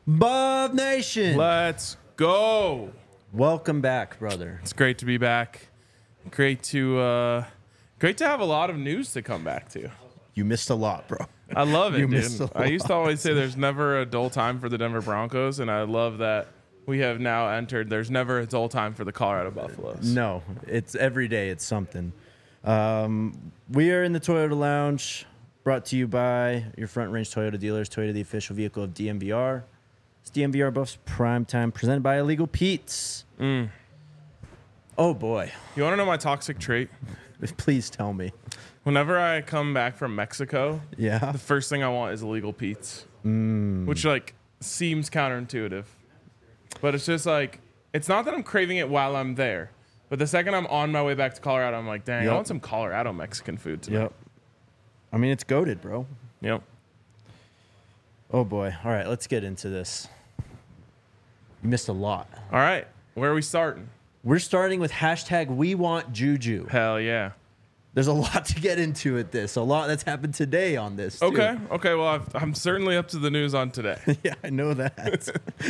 Buff Nation, Let's go. welcome back, brother. It's great to be back. Great to have a lot of news to come back to. You missed a lot, bro. I love it, You missed dude. a I used to lot. always say there's never a dull time for the Denver Broncos, and I love that we have now entered. There's never a dull time for the Colorado Buffaloes. No, it's every day. It's something. We are in the Toyota Lounge, brought to you by your Front Range Toyota dealers. Toyota, the official vehicle of DMVR. It's DMVR Buffs Prime Time, presented by Illegal Pete's. Oh boy, You want to know my toxic trait? please tell me. Whenever I come back from Mexico, Yeah, the first thing I want is Illegal Pete's, which like seems counterintuitive, but it's just like it's not that I'm craving it while I'm there, but the second I'm on my way back to Colorado, I'm like, dang, Yep. I want some Colorado Mexican food tonight. yep. I mean, it's goated, bro. Yep. Oh boy. All right, let's get into this. You missed a lot. All right, where are we starting? We're starting with hashtag We Want Juju. Hell yeah. There's a lot to get into at this. A lot that's happened today on this. Too. Okay. Okay. Well, I'm certainly up to the news on today. Yeah, I know that.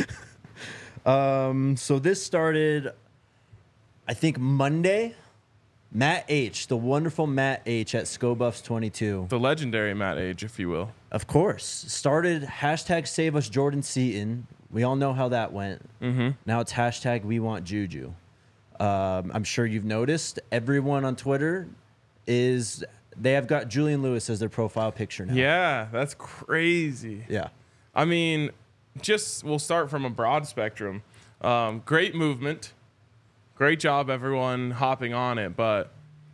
So this started, I think, Monday. Matt H., the wonderful Matt H. at ScoBuffs 22, The legendary Matt Age, if you will. of course, started hashtag Save Us Jordan Seaton. We all know how that went. Mm-hmm. Now it's hashtag We Want Juju. I'm sure you've noticed everyone on Twitter they have got Julian Lewis as their profile picture now. Yeah, that's crazy. Yeah. I mean, we'll start from a broad spectrum. Great movement. Great job, everyone hopping on it. But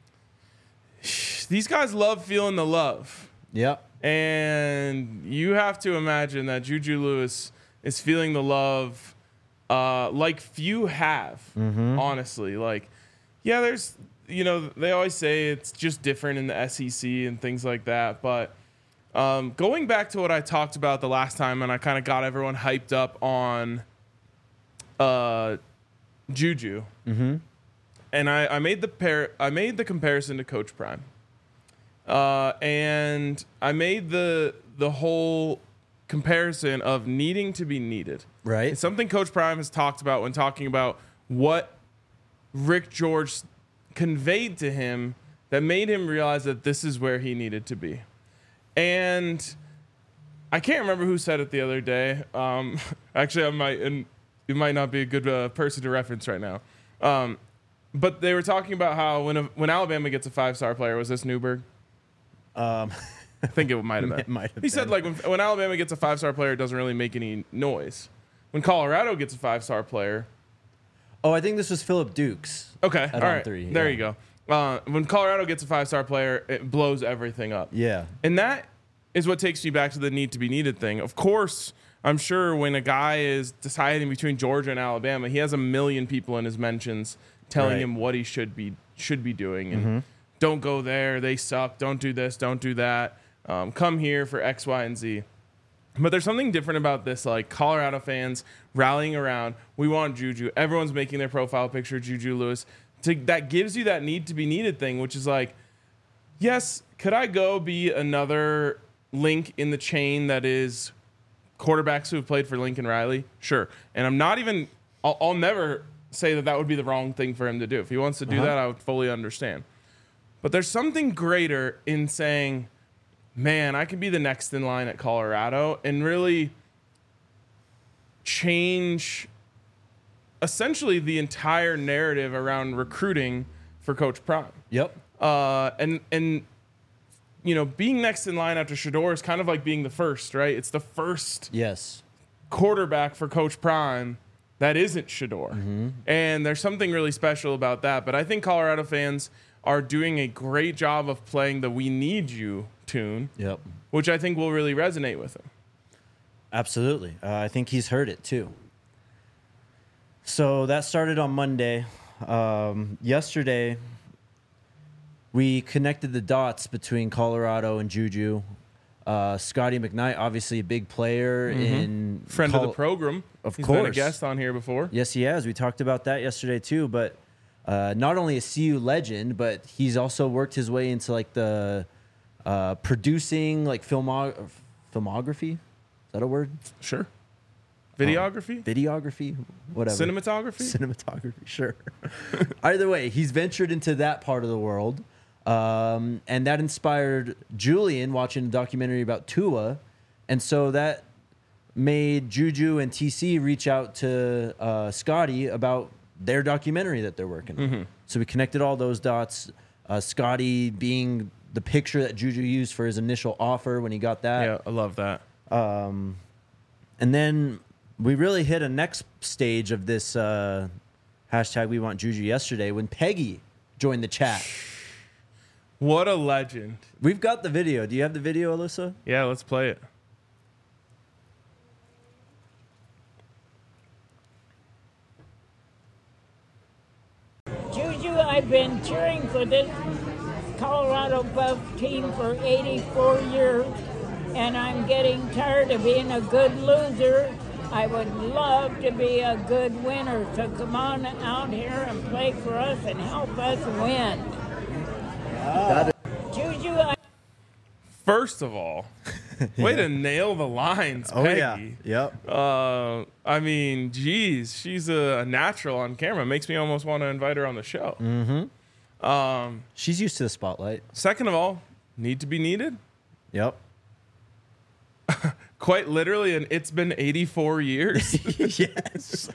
these guys love feeling the love. Yep. And you have to imagine that Juju Lewis is feeling the love like few have, honestly. Like, yeah, they always say it's just different in the SEC and things like that. But going back to what I talked about the last time, and I kind of got everyone hyped up on Juju, and I made the comparison to Coach Prime, and I made the whole comparison of needing to be needed. Right. It's something Coach Prime has talked about when talking about what Rick George conveyed to him that made him realize that this is where he needed to be. And I can't remember who said it the other day. Actually, it might not be a good person to reference right now. But they were talking about how when Alabama gets a 5-star player, was this Newberg? I think it might have been. It might have He said, like, when Alabama gets a 5-star player, it doesn't really make any noise. When Colorado gets a 5-star player. Oh, I think this was Philip Dukes. Okay, At all On right. Three, There yeah. you go. When Colorado gets a 5-star player, it blows everything up. Yeah. And that is what takes me back to the need to be needed thing. Of course, I'm sure when a guy is deciding between Georgia and Alabama, he has a million people in his mentions telling Right. him what he should be doing. And don't go there. They suck. Don't do this. Don't do that. Come here for X, Y, and Z. But there's something different about this, like Colorado fans rallying around. We want Juju. Everyone's making their profile picture Juju Lewis. That gives you that need to be needed thing, which is like, yes, could I go be another link in the chain that is quarterbacks who have played for Lincoln Riley? Sure. And I'm not even, I'll never say that would be the wrong thing for him to do. If he wants to do that, I would fully understand. But there's something greater in saying, man, I could be the next in line at Colorado and really change essentially the entire narrative around recruiting for Coach Prime. Yep. And being next in line after Shedeur is kind of like being the first, right? It's the first Yes. quarterback for Coach Prime that isn't Shedeur. And there's something really special about that. But I think Colorado fans are doing a great job of playing the "We Need You" tune, Yep. which I think will really resonate with him. Absolutely. I think he's heard it too. So that started on Monday. Yesterday, we connected the dots between Colorado and Juju. Scotty McKnight, obviously a big player in Friend of the program. Of He's been a course. guest on here before. Yes, he has. We talked about that yesterday too. But not only a CU legend, but he's also worked his way into like the producing, like filmography. Is that a word? Sure. videography, whatever. Cinematography, sure. Either way, he's ventured into that part of the world. And that inspired Julian watching a documentary about Tua. And so that made Juju and TC reach out to Scotty about their documentary that they're working on. So we connected all those dots. Scotty being the picture that Juju used for his initial offer when he got that. Yeah, I love that. And then we really hit a next stage of this hashtag We Want Juju yesterday when Peggy joined the chat. What a legend. We've got the video. Do you have the video, Alyssa? Yeah, let's play it. Juju, I've been cheering for this Colorado Buff team for 84 years, and I'm getting tired of being a good loser. I would love to be a good winner, so come on out here and play for us and help us win. Juju, First of all, way to nail the lines, Peggy. Yep. I mean, geez, she's a natural on camera. Makes me almost want to invite her on the show. She's used to the spotlight. Second of all, need to be needed. Yep. Quite literally, and it's been 84 years. Yes.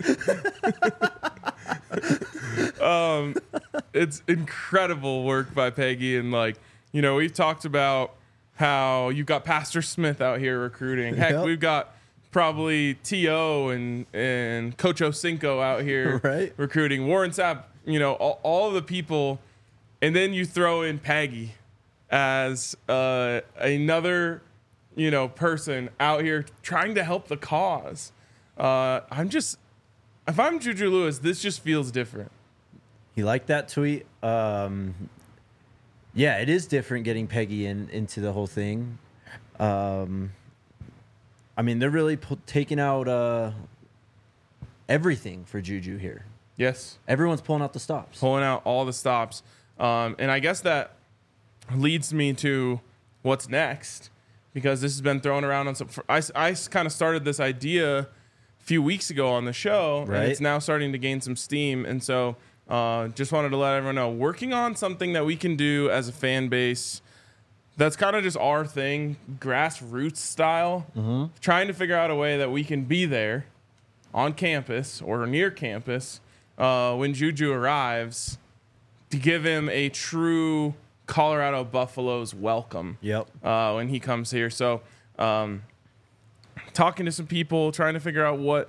It's incredible work by Peggy. And, like, you know, we've talked about how you got Pastor Smith out here recruiting. Heck, Yep. we've got probably T.O. and Coach Osinko out here Right. recruiting. Warren Sapp, you know, all of the people. And then you throw in Peggy as another, you know, person out here trying to help the cause. If I'm Juju Lewis, this just feels different. He liked that tweet. Yeah, it is different getting Peggy into the whole thing. I mean, they're really taking out everything for Juju here. Yes. Everyone's pulling out the stops. Pulling out all the stops. And I guess that leads me to what's next, because this has been thrown around on some. I kind of started this idea a few weeks ago on the show, Right. and it's now starting to gain some steam. And so just wanted to let everyone know, working on something that we can do as a fan base that's kind of just our thing, grassroots style, trying to figure out a way that we can be there on campus or near campus when Juju arrives to give him a true Colorado Buffaloes welcome. Yep. When he comes here. So talking to some people, trying to figure out what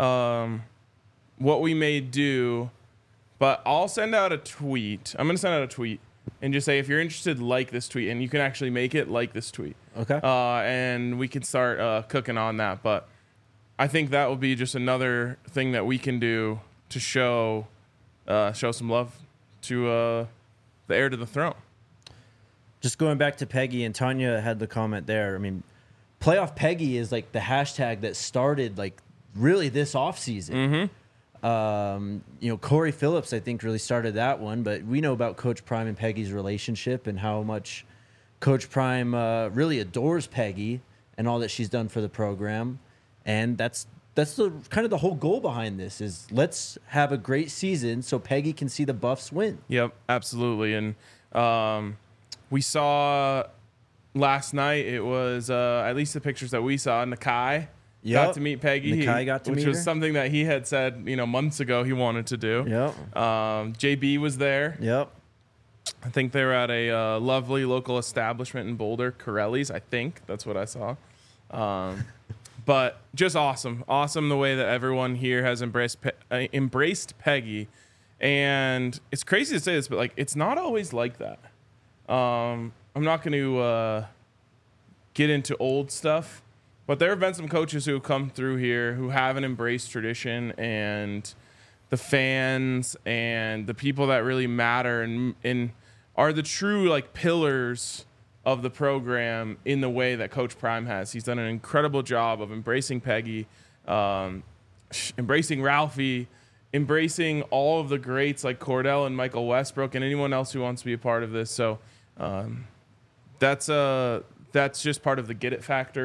we may do. But I'll send out a tweet. I'm going to send out a tweet and just say, if you're interested, like this tweet. And you can actually make it like this tweet. Okay. And we can start cooking on that. But I think that will be just another thing that we can do to show some love to the heir to the throne. Just going back to Peggy, and Tanya had the comment there. I mean, Playoff Peggy is like the hashtag that started like really this offseason. You know, Corey Phillips, I think, really started that one, but we know about Coach Prime and Peggy's relationship and how much Coach Prime really adores Peggy and all that she's done for the program. And that's the kind of the whole goal behind this is let's have a great season so Peggy can see the Buffs win. Yep, absolutely. And we saw last night, it was at least the pictures that we saw, Nakai got to meet Peggy. Nakai got to which meet was her. something that he had said, you know, months ago he wanted to do. Yep. JB was there. Yep. I think they were at a lovely local establishment in Boulder, Corelli's. I think that's what I saw. But just awesome. Awesome the way that everyone here has embraced Peggy. And it's crazy to say this, but like it's not always like that. I'm not going to get into old stuff, but there have been some coaches who have come through here who haven't embraced tradition and the fans and the people that really matter and are the true like pillars of the program in the way that Coach Prime has. He's done an incredible job of embracing Peggy, embracing Ralphie, embracing all of the greats like Cordell and Michael Westbrook and anyone else who wants to be a part of this. So that's just part of the get it factor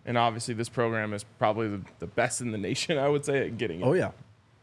And obviously, this program is probably the best in the nation, I would say, at getting it. Oh yeah.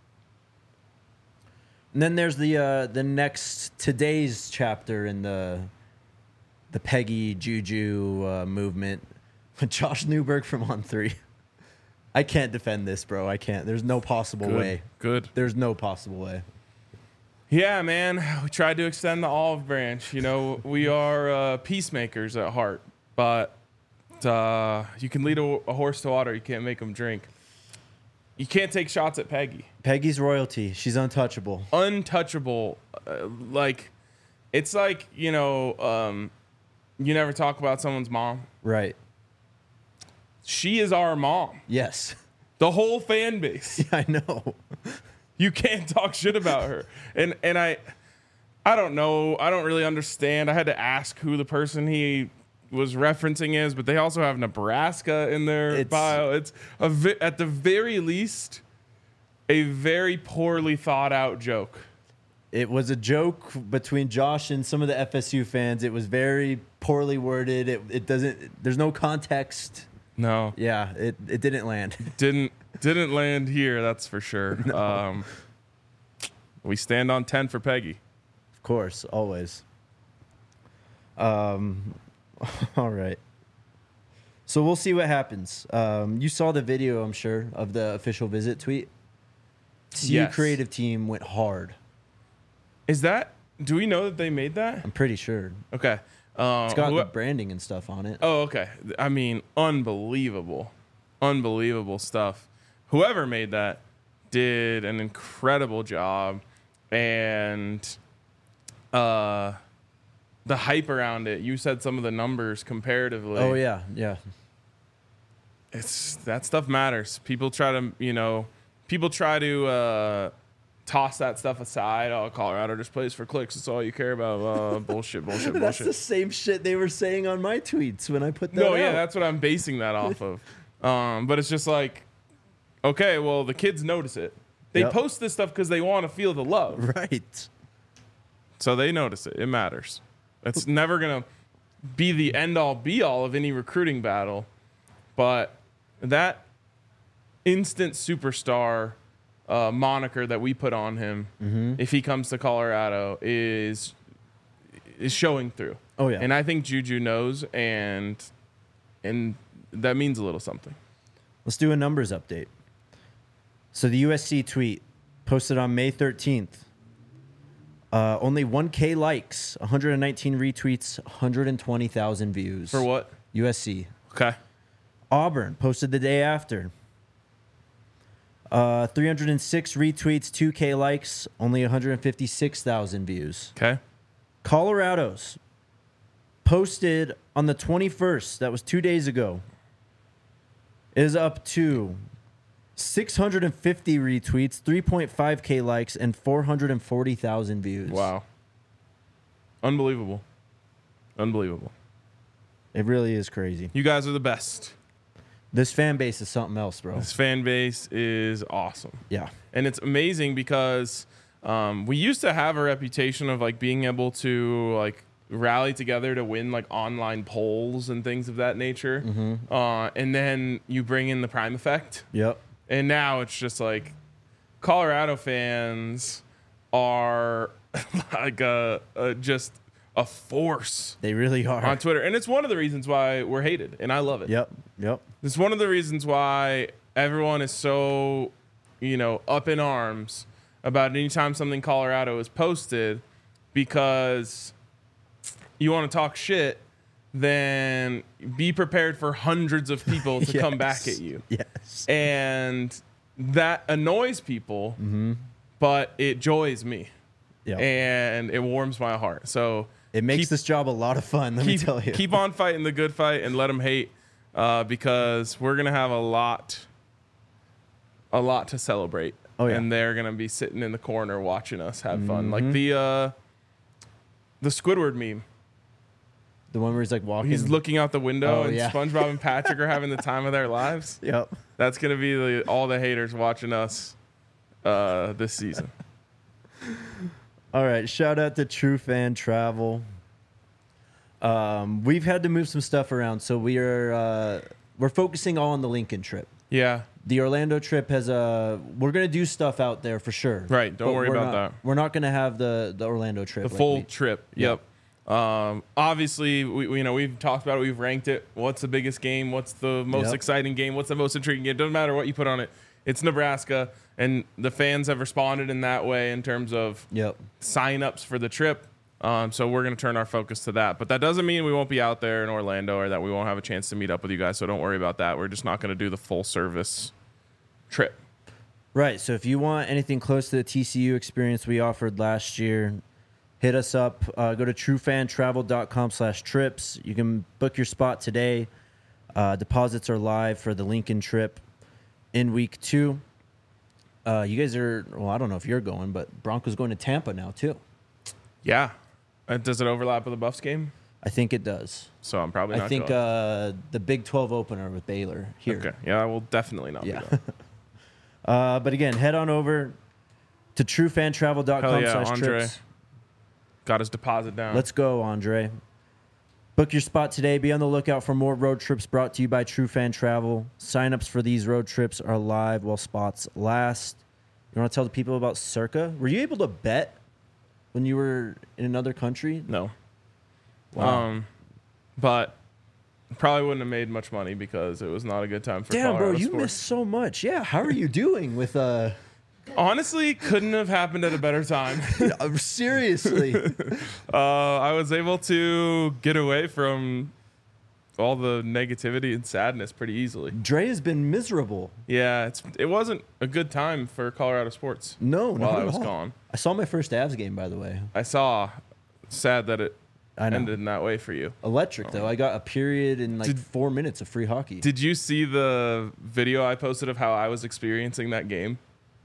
And then there's the next today's chapter in the Peggy Juju movement with Josh Newberg from On3. I can't defend this, bro. I can't. There's no possible way. Good. There's no possible way. Yeah, man. We tried to extend the olive branch. You know, we are peacemakers at heart, but you can lead a horse to water. You can't make him drink. You can't take shots at Peggy. Peggy's royalty. She's untouchable. Untouchable. It's like, you never talk about someone's mom. Right. She is our mom. Yes. The whole fan base. Yeah, I know. You can't talk shit about her. And I don't know. I don't really understand. I had to ask who the person he was referencing is, but they also have Nebraska in their bio. It's at the very least a very poorly thought out joke. It was a joke between Josh and some of the FSU fans. It was very poorly worded. It doesn't. There's no context. No. Yeah, it didn't land. Didn't land here. That's for sure. No. We stand on 10 for Peggy. Of course, always. All right. So we'll see what happens. You saw the video, I'm sure, of the official visit tweet. CU Yes. creative team went hard. Do we know that they made that? I'm pretty sure. Okay. It's got the branding and stuff on it. Oh, okay. I mean, unbelievable stuff. Whoever made that did an incredible job, and the hype around it. You said some of the numbers comparatively. Oh yeah, yeah. That stuff matters. People try to toss that stuff aside. Oh, Colorado just plays for clicks. That's all you care about. Bullshit. That's the same shit they were saying on my tweets when I put that No, out. yeah, that's what I'm basing that off of. But it's just like, okay, well, the kids notice it. They Yep. post this stuff because they want to feel the love. Right. So they notice it. It matters. It's never going to be the end-all, be-all of any recruiting battle. But that instant superstar moniker that we put on him, if he comes to Colorado, is showing through. Oh, yeah. And I think Juju knows, and that means a little something. Let's do a numbers update. So the USC tweet posted on May 13th. Only 1K likes, 119 retweets, 120,000 views. For what? USC. Okay. Auburn posted the day after. 306 retweets, 2K likes, only 156,000 views. Okay. Colorado's posted on the 21st, that was 2 days ago, is up to 650 retweets, 3.5K likes, and 440,000 views. Wow. Unbelievable. It really is crazy. You guys are the best. This fan base is something else, bro. This fan base is awesome. Yeah. And it's amazing because we used to have a reputation of like being able to like rally together to win like online polls and things of that nature. And then you bring in the Prime effect. Yep. And now it's just like Colorado fans are like just a force They really are. on Twitter. And it's one of the reasons why we're hated. And I love it. Yep. It's one of the reasons why everyone is so, up in arms about anytime something Colorado is posted, because you want to talk shit, then be prepared for hundreds of people to come back at you. Yes. And that annoys people, but it joys me. Yep. And it warms my heart. So It makes this job a lot of fun, let me tell you. Keep on fighting the good fight and let them hate, because we're going to have a lot to celebrate. Oh, yeah. And they're going to be sitting in the corner watching us have fun. Like the Squidward meme. The one where he's like walking. He's looking out the window, Oh, and yeah. SpongeBob and Patrick are having the time of their lives. Yep. That's going to be all the haters watching us this season. All right. Shout out to True Fan Travel. We've had to move some stuff around, so we are we're focusing all on the Lincoln trip. Yeah. The Orlando trip has we're gonna do stuff out there for sure. Right. Don't but worry about that. We're not gonna have the Orlando trip. The full trip. Yep. Obviously, we've talked about it. We've ranked it. What's the biggest game? What's the most exciting game? What's the most intriguing game? It doesn't matter what you put on it. It's Nebraska, and the fans have responded in that way in terms of sign-ups for the trip. So we're going to turn our focus to that. But that doesn't mean we won't be out there in Orlando or that we won't have a chance to meet up with you guys. So don't worry about that. We're just not going to do the full-service trip. Right. So if you want anything close to the TCU experience we offered last year, hit us up. Go to truefantravel.com/trips. You can book your spot today. Deposits are live for the Lincoln trip in week 2. You guys are, well, I don't know if you're going, but Broncos going to Tampa now too. Yeah. Does it overlap with the Buffs game? I think it does. So I'm probably not I think going. The Big 12 opener with Baylor here. Okay. Yeah, I will definitely not be going. But again, head on over to truefantravel.com/trips. Andre got his deposit down. Let's go, Andre. Book your spot today. Be on the lookout for more road trips brought to you by True Fan Travel. Sign-ups for these road trips are live while spots last. You want to tell the people about Circa? Were you able to bet when you were in another country? No. Wow. But probably wouldn't have made much money because it was not a good time for Damn, Colorado bro, you sports. missed so much. Yeah, how are you doing with Honestly, couldn't have happened at a better time. seriously? I was able to get away from all the negativity and sadness pretty easily. Dre has been miserable. Yeah, it wasn't a good time for Colorado sports. No, while not I was at all. gone. I saw my first Avs game, by the way. I saw. Sad that it I know. ended in that way for you. Electric, though. I got a period in 4 minutes of free hockey. Did you see the video I posted of how I was experiencing that game?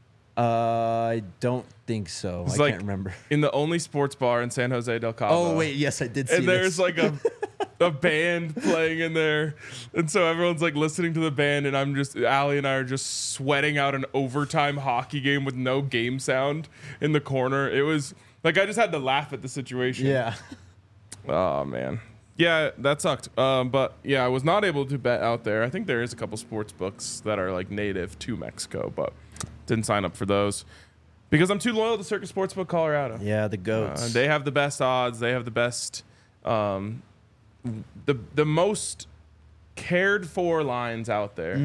I don't think so. I can't remember. In the only sports bar in San Jose del Cabo. Oh, wait. Yes, I did see And there's this. like a band playing in there. And so everyone's like listening to the band, and Allie and I are just sweating out an overtime hockey game with no game sound in the corner. It was like I just had to laugh at the situation. Yeah. Oh, man. Yeah, that sucked. But yeah, I was not able to bet out there. I think there is a couple sports books that are like native to Mexico, but didn't sign up for those because I'm too loyal to Circus Sportsbook Colorado. Yeah, the GOATs. They have the best odds. They have the best, the most cared for lines out there.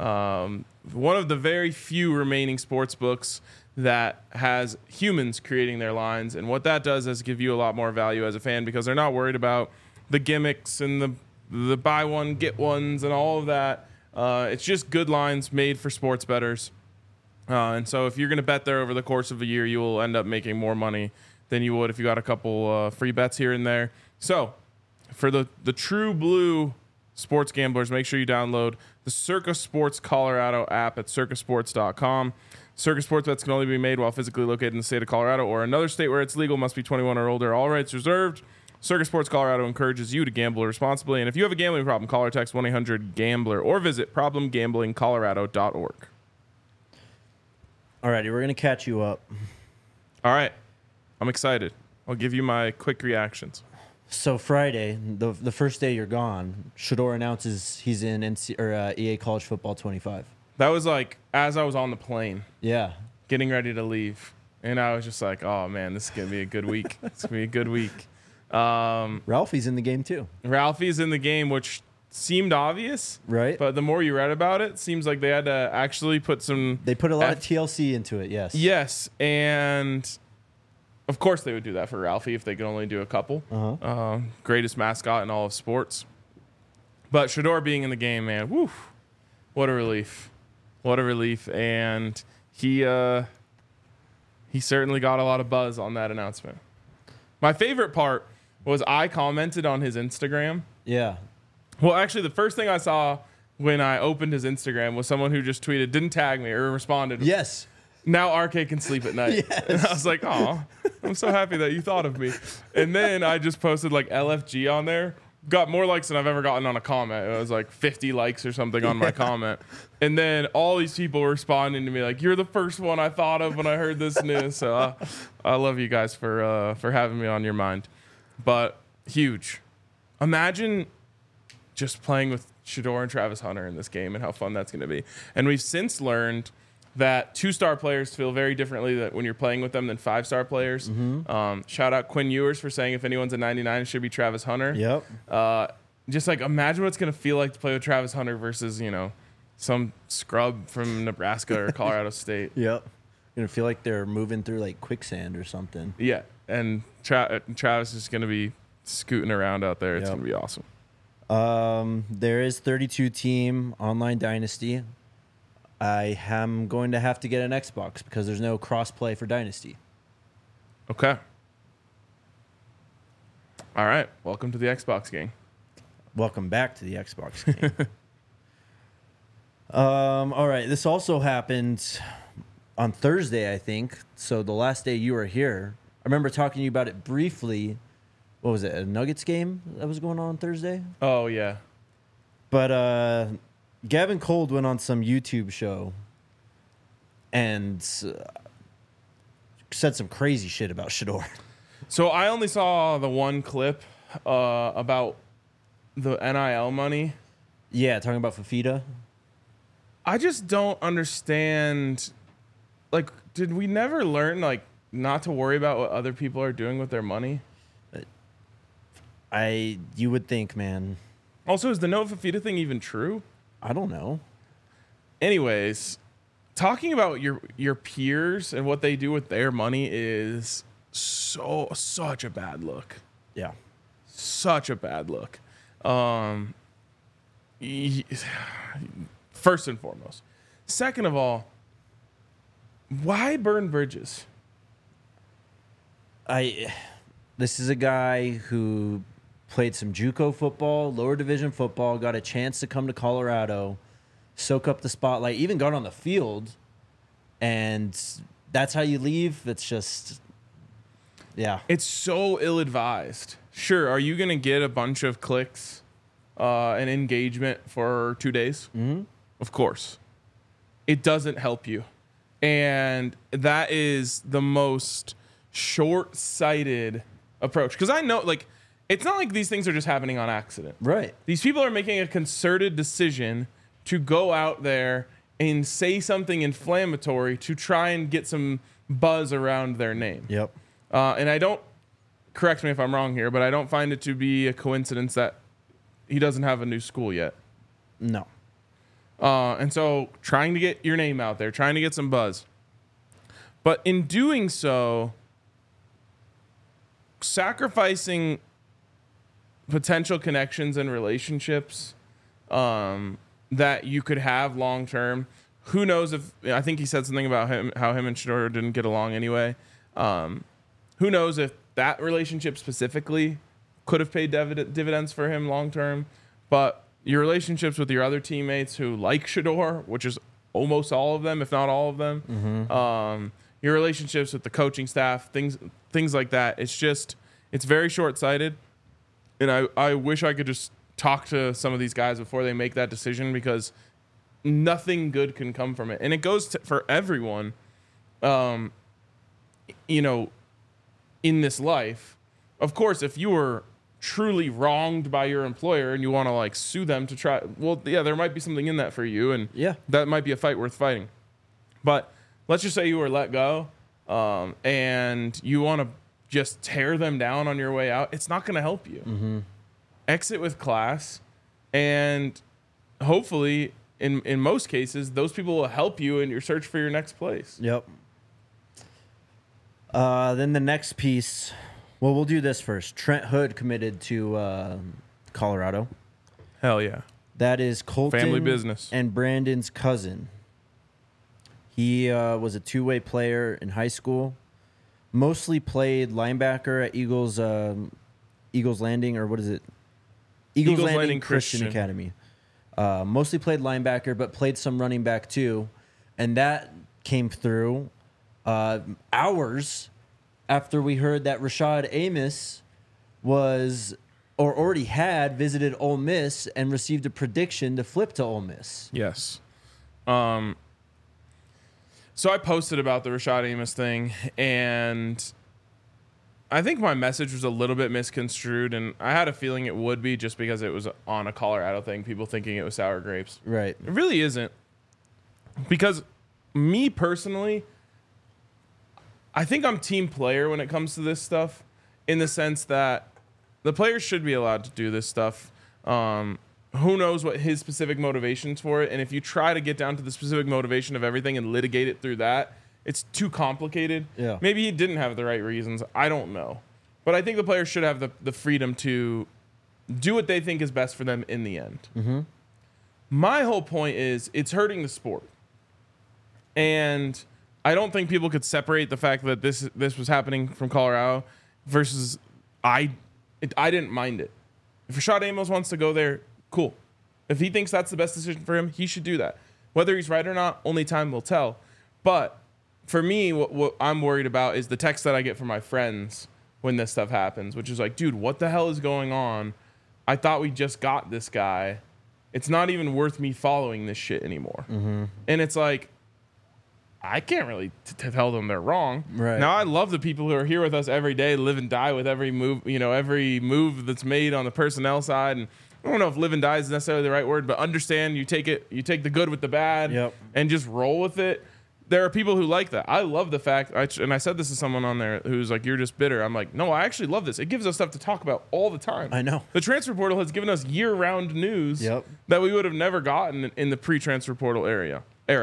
One of the very few remaining sports books that has humans creating their lines, and what that does is give you a lot more value as a fan because they're not worried about the gimmicks and the buy one get ones and all of that. It's just good lines made for sports bettors. And so if you're going to bet there over the course of a year, you will end up making more money than you would if you got a couple free bets here and there. So for the true blue sports gamblers, make sure you download the Circa Sports Colorado app at circasports.com. Circa Sports bets can only be made while physically located in the state of Colorado or another state where it's legal. Must be 21 or older. All rights reserved. Circa Sports Colorado encourages you to gamble responsibly. And if you have a gambling problem, call or text 1-800-GAMBLER or visit problemgamblingcolorado.org. Alrighty, we're going to catch you up. All right. I'm excited. I'll give you my quick reactions. So Friday, the first day you're gone, Shedeur announces he's in EA College Football 25. That was like as I was on the plane Yeah. getting ready to leave. And I was just like, oh, man, this is going to be a good week. It's going to be a good week. Ralphie's in the game too. Ralphie's in the game, which seemed obvious. Right. But the more you read about it, seems like they had to actually put some... They put a lot of TLC into it, yes. Yes, and of course they would do that for Ralphie if they could only do a couple. Greatest mascot in all of sports. But Shedeur being in the game, man, whew, what a relief. What a relief. And he certainly got a lot of buzz on that announcement. My favorite part was I commented on his Instagram. Yeah. Well, actually, the first thing I saw when I opened his Instagram was someone who just tweeted, didn't tag me or responded. Yes. Now RK can sleep at night. Yes. And I was like, oh, I'm so happy that you thought of me. And then I just posted like LFG on there. Got more likes than I've ever gotten on a comment. It was like 50 likes or something on my comment. And then all these people were responding to me like, you're the first one I thought of when I heard this news. So I love you guys for having me on your mind. But huge. Imagine just playing with Shedeur and Travis Hunter in this game and how fun that's going to be. And we've since learned that 2-star players feel very differently that when you're playing with them than 5-star players. Shout out Quinn Ewers for saying if anyone's a 99, it should be Travis Hunter. Yep. Just like imagine what it's going to feel like to play with Travis Hunter versus, some scrub from Nebraska or Colorado State. Yep. Gonna feel like they're moving through like quicksand or something. Yeah. And Travis is going to be scooting around out there. It's Yep. going to be awesome. There is 32 team online dynasty. I am going to have to get an Xbox because there's no cross play for dynasty. Okay. All right. Welcome to the Xbox gang. Welcome back to the Xbox game. All right. This also happened on Thursday, I think. So the last day you were here. I remember talking to you about it briefly. What was it? A Nuggets game that was going on Thursday? Oh, yeah. But Gavin Cold went on some YouTube show and said some crazy shit about Shedeur. So I only saw the one clip about the NIL money. Yeah, talking about Fafita. I just don't understand. Like, did we never learn, like, not to worry about what other people are doing with their money? You would think, man. Also, is the Noah Fafita thing even true? I don't know. Anyways, talking about your peers and what they do with their money is such a bad look. Yeah. Such a bad look. First and foremost. Second of all, why burn bridges? This is a guy who played some JUCO football, lower division football, got a chance to come to Colorado, soak up the spotlight, even got on the field, and that's how you leave. It's just, yeah. It's so ill-advised. Sure, are you going to get a bunch of clicks and engagement for 2 days? Mm-hmm. Of course. It doesn't help you. And that is the most short-sighted approach. Because I know, like, it's not like these things are just happening on accident. Right. These people are making a concerted decision to go out there and say something inflammatory to try and get some buzz around their name. Yep. And I don't, correct me if I'm wrong here, but I don't find it to be a coincidence that he doesn't have a new school yet. No. And so trying to get your name out there, trying to get some buzz. But in doing so, sacrificing potential connections and relationships that you could have long term. Who knows if, I think he said something about how him and Shedeur didn't get along anyway. Who knows if that relationship specifically could have paid dividends for him long term. But your relationships with your other teammates who like Shedeur, which is almost all of them, if not all of them, your relationships with the coaching staff, things like that. It's very short-sighted. And I wish I could just talk to some of these guys before they make that decision, because nothing good can come from it. And it goes for everyone, in this life. Of course, if you were truly wronged by your employer and you want to like sue them to try, well, yeah, there might be something in that for you. And Yeah. that might be a fight worth fighting. But let's just say you were let go and you want to just tear them down on your way out. It's not going to help you. Mm-hmm. Exit with class, and hopefully in most cases, those people will help you in your search for your next place. Yep. Then the next piece, well, we'll do this first. Trent Hood committed to Colorado. Hell yeah. That is Colton Family business. and Brandon's cousin. He was a two-way player in high school. Mostly played linebacker at Eagles Landing, or what is it? Eagles Landing Christian Academy. Mostly played linebacker, but played some running back too. And that came through hours after we heard that Rashad Amos was, or already had, visited Ole Miss and received a prediction to flip to Ole Miss. Yes. So I posted about the Rashad Amos thing, and I think my message was a little bit misconstrued, and I had a feeling it would be just because it was on a Colorado thing, people thinking it was sour grapes. Right. It really isn't. Because me personally, I think I'm team player when it comes to this stuff, in the sense that the players should be allowed to do this stuff. Who knows what his specific motivations for it, and if you try to get down to the specific motivation of everything and litigate it through that, it's too complicated. Yeah. Maybe he didn't have the right reasons. I don't know. But I think the players should have the freedom to do what they think is best for them in the end. Mm-hmm. My whole point is it's hurting the sport. And I don't think people could separate the fact that this was happening from Colorado versus I didn't mind it. If Rashad Amos wants to go there, cool. If he thinks that's the best decision for him, he should do that. Whether he's right or not, only time will tell. But for me, what I'm worried about is the text that I get from my friends when this stuff happens, which is like, dude, what the hell is going on? I thought we just got this guy. It's not even worth me following this shit anymore. Mm-hmm. And it's like, I can't really tell them they're wrong. Right. Now, I love the people who are here with us every day, live and die with every move that's made on the personnel side. And I don't know if live and die is necessarily the right word, but understand you take the good with the bad, yep, and just roll with it. There are people who like that. I love the fact, and I said this to someone on there who's like, you're just bitter. I'm like, no, I actually love this. It gives us stuff to talk about all the time. I know. The transfer portal has given us year-round news, yep, that we would have never gotten in the pre-transfer portal era.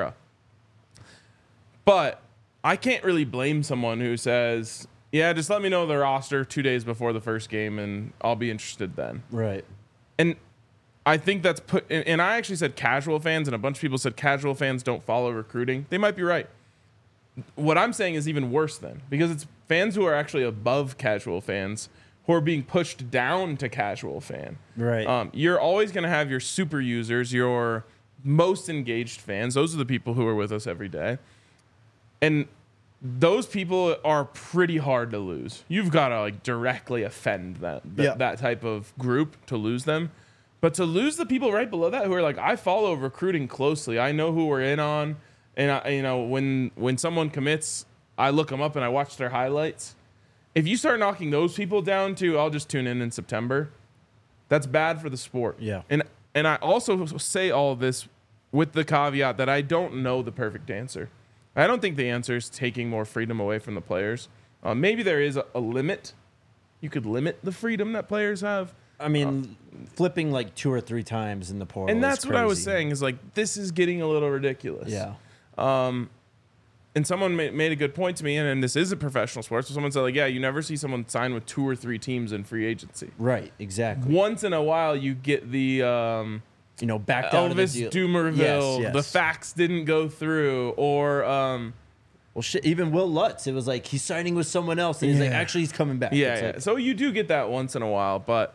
But I can't really blame someone who says, yeah, just let me know the roster 2 days before the first game and I'll be interested then. Right. And I think that's and I actually said casual fans, and a bunch of people said casual fans don't follow recruiting. They might be right. What I'm saying is even worse then, because it's fans who are actually above casual fans who are being pushed down to casual fan. Right. You're always going to have your super users, your most engaged fans. Those are the people who are with us every day. And those people are pretty hard to lose. You've got to like directly offend that type of group to lose them. But to lose the people right below that who are like, I follow recruiting closely. I know who we're in on. And, when someone commits, I look them up and I watch their highlights. If you start knocking those people down to, I'll just tune in September, that's bad for the sport. Yeah. And I also say all of this with the caveat that I don't know the perfect answer. I don't think the answer is taking more freedom away from the players. Maybe there is a limit. You could limit the freedom that players have. I mean, flipping like 2 or 3 times in the portal. And that's is what I was crazy. saying is like, this is getting a little ridiculous. Yeah. And someone made a good point to me, and this isn't professional sports. So someone said, like, yeah, you never see someone sign with 2 or 3 teams in free agency. Right, exactly. Once in a while, you get the backed out of the Elvis deal. Doomerville, Yes. the facts didn't go through, or well, shit, even Will Lutz, it was like he's signing with someone else, and he's like, actually, he's coming back. yeah, It's yeah. like, So you do get that once in a while, but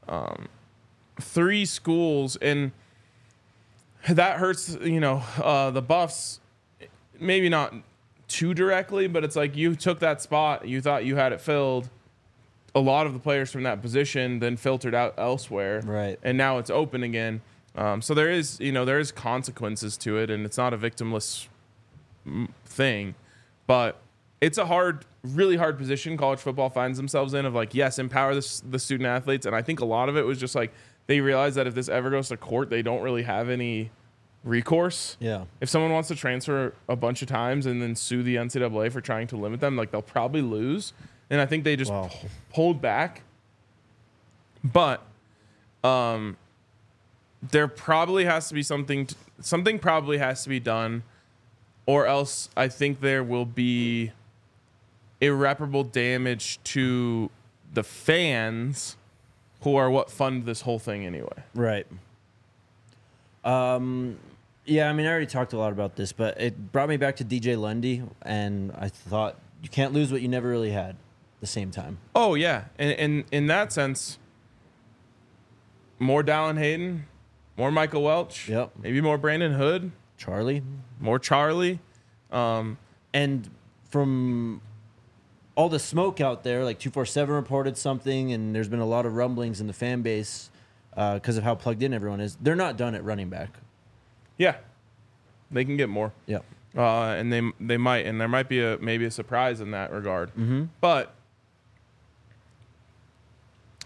3 schools, and that hurts. The Buffs, maybe not too directly, but it's like you took that spot, you thought you had it filled. A lot of the players from that position then filtered out elsewhere, Right. And now it's open again. So there is consequences to it, and it's not a victimless thing, but it's a really hard position college football finds themselves in, of like, yes, empower the student athletes. And I think a lot of it was just like, they realized that if this ever goes to court, they don't really have any recourse. Yeah. If someone wants to transfer a bunch of times and then sue the NCAA for trying to limit them, like, they'll probably lose. And I think they just pulled back. But there probably has to be something probably has to be done, or else I think there will be irreparable damage to the fans who are what fund this whole thing anyway. Right. Yeah, I mean, I already talked a lot about this, but it brought me back to DJ Lundy, and I thought you can't lose what you never really had at the same time. Oh, yeah. And in that sense, more Dallin Hayden, more Michael Welch, Yep. maybe more Brandon Hood, Charlie. more Charlie. And from all the smoke out there, like 247 reported something, and there's been a lot of rumblings in the fan base because of how plugged in everyone is. They're not done at running back. Yeah. They can get more. Yeah. And they might, and there might be maybe a surprise in that regard. Mm-hmm. But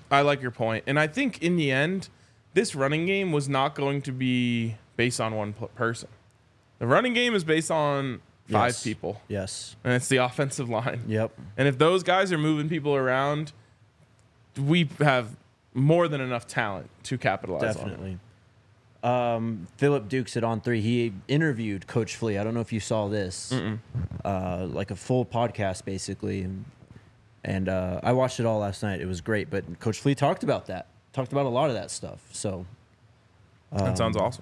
I like your point. And I think in the end, this running game was not going to be based on one person. The running game is based on five Yes. people. Yes. And it's the offensive line. Yep. And if those guys are moving people around, we have more than enough talent to capitalize on it. Definitely. Philip Dukes at On3, he interviewed Coach Flea. I don't know if you saw this. Like a full podcast, basically. And I watched it all last night. It was great. But Coach Flea talked about that. Talked about a lot of that stuff. So That sounds awesome.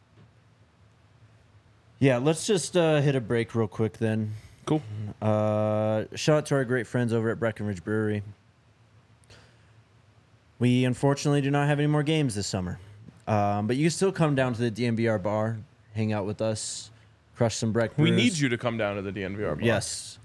yeah, let's just hit a break real quick then. Cool. Shout out to our great friends over at Breckenridge Brewery. We unfortunately do not have any more games this summer. But you can still come down to the DNVR bar, hang out with us, crush some Breck We brews. need you to come down to the DNVR bar. Yes.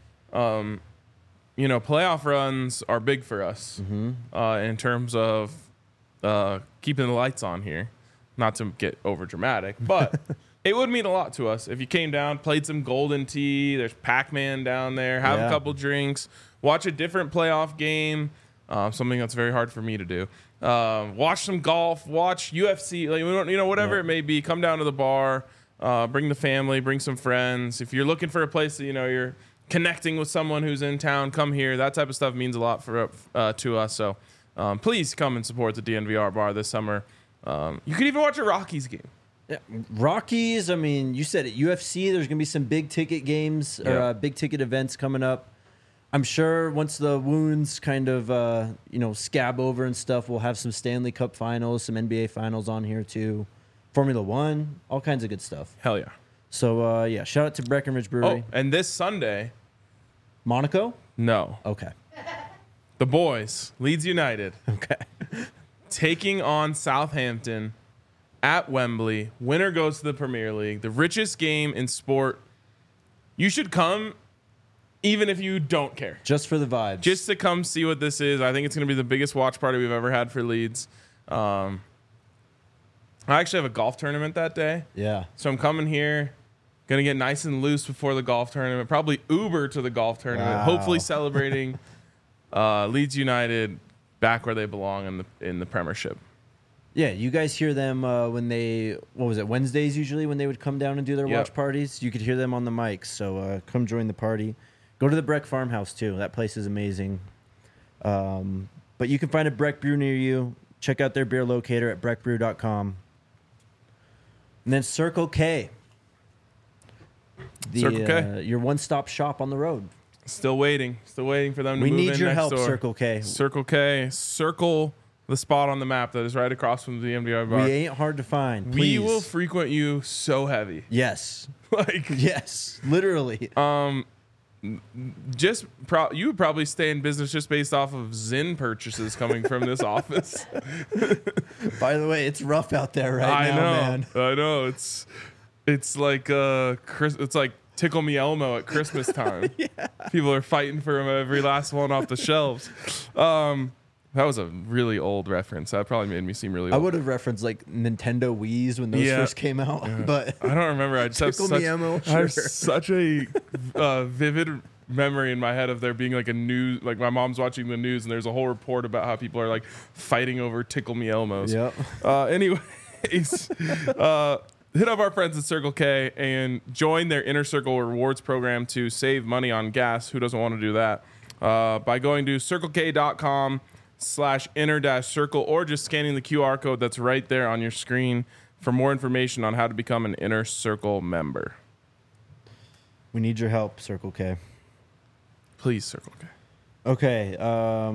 You know, playoff runs are big for us in terms of keeping the lights on here. Not to get over dramatic, but it would mean a lot to us if you came down, played some Golden Tee. There's Pac-Man down there. Have Yeah. a couple drinks. Watch a different playoff game. Something that's very hard for me to do. Watch some golf. Watch UFC. Like, whatever it may be. Come down to the bar. Bring the family. Bring some friends. If you're looking for a place that you're connecting with someone who's in town, come here. That type of stuff means a lot for to us. So please come and support the DNVR bar this summer. You could even watch a Rockies game. Yeah. Rockies, I mean, you said it. UFC, there's going to be some big ticket games or Yeah. big ticket events coming up. I'm sure once the wounds kind of, scab over and stuff, we'll have some Stanley Cup finals, some NBA finals on here too. Formula One, all kinds of good stuff. Hell yeah. So, shout out to Breckenridge Brewery. Oh, and this Sunday, Monaco? no. Okay. The boys, Leeds United, Okay. taking on Southampton at Wembley. Winner goes to the Premier League, the richest game in sport. You should come even if you don't care. Just for the vibes. Just to come see what this is. I think it's going to be the biggest watch party we've ever had for Leeds. I actually have a golf tournament that day. Yeah. So I'm coming here, going to get nice and loose before the golf tournament. Probably Uber to the golf tournament. Wow. Hopefully celebrating Leeds United back where they belong in the Premiership. Yeah, you guys hear them when they, Wednesdays usually when they would come down and do their Yep. watch parties? You could hear them on the mics, so come join the party. Go to the Breck Farmhouse, too. That place is amazing. But you can find a Breck Brew near you. Check out their beer locator at breckbrew.com. And then Circle K. Circle K. Your one-stop shop on the road. Still waiting for them to We move need in your next help, door. Circle K. Circle K. Circle the spot on the map that is right across from the MDR bar. We ain't hard to find. We Please. will frequent you so heavy. Yes. Like, Yes. Literally. you would probably stay in business just based off of Zyn purchases coming from this office. By the way, it's rough out there right now, man. I know. It's like it's like Tickle Me Elmo at Christmas time. People are fighting for every last one off the shelves. That was a really old reference. That probably made me seem really I old. would have referenced like Nintendo Wii's when those Yeah. first came out, but I don't remember. I just have Tickle such, Me Elmo, I have sure. such a vivid memory in my head of there being like a news, like my mom's watching the news and there's a whole report about how people are like fighting over Tickle Me Elmos. Yep. Anyways, hit up our friends at Circle K and join their Inner Circle Rewards program to save money on gas. Who doesn't want to do that? By going to circlek.com/inner-circle or just scanning the QR code that's right there on your screen for more information on how to become an Inner Circle member. We need your help, Circle K. Please, Circle K. Okay.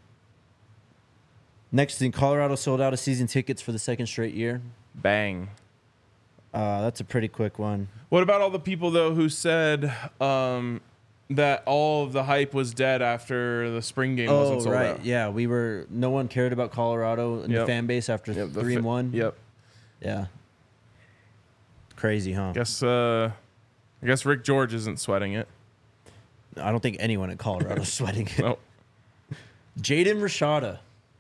Next thing, Colorado sold out of season tickets for the second straight year. Bang. That's a pretty quick one. What about all the people, though, who said that all of the hype was dead after the spring game wasn't sold out? Yeah, no one cared about Colorado and the Yep. fan base after Yep, 3-1. Yep. Yeah. Crazy, huh? I guess Rick George isn't sweating it. I don't think anyone at Colorado is sweating it. No. Jaden Rashada.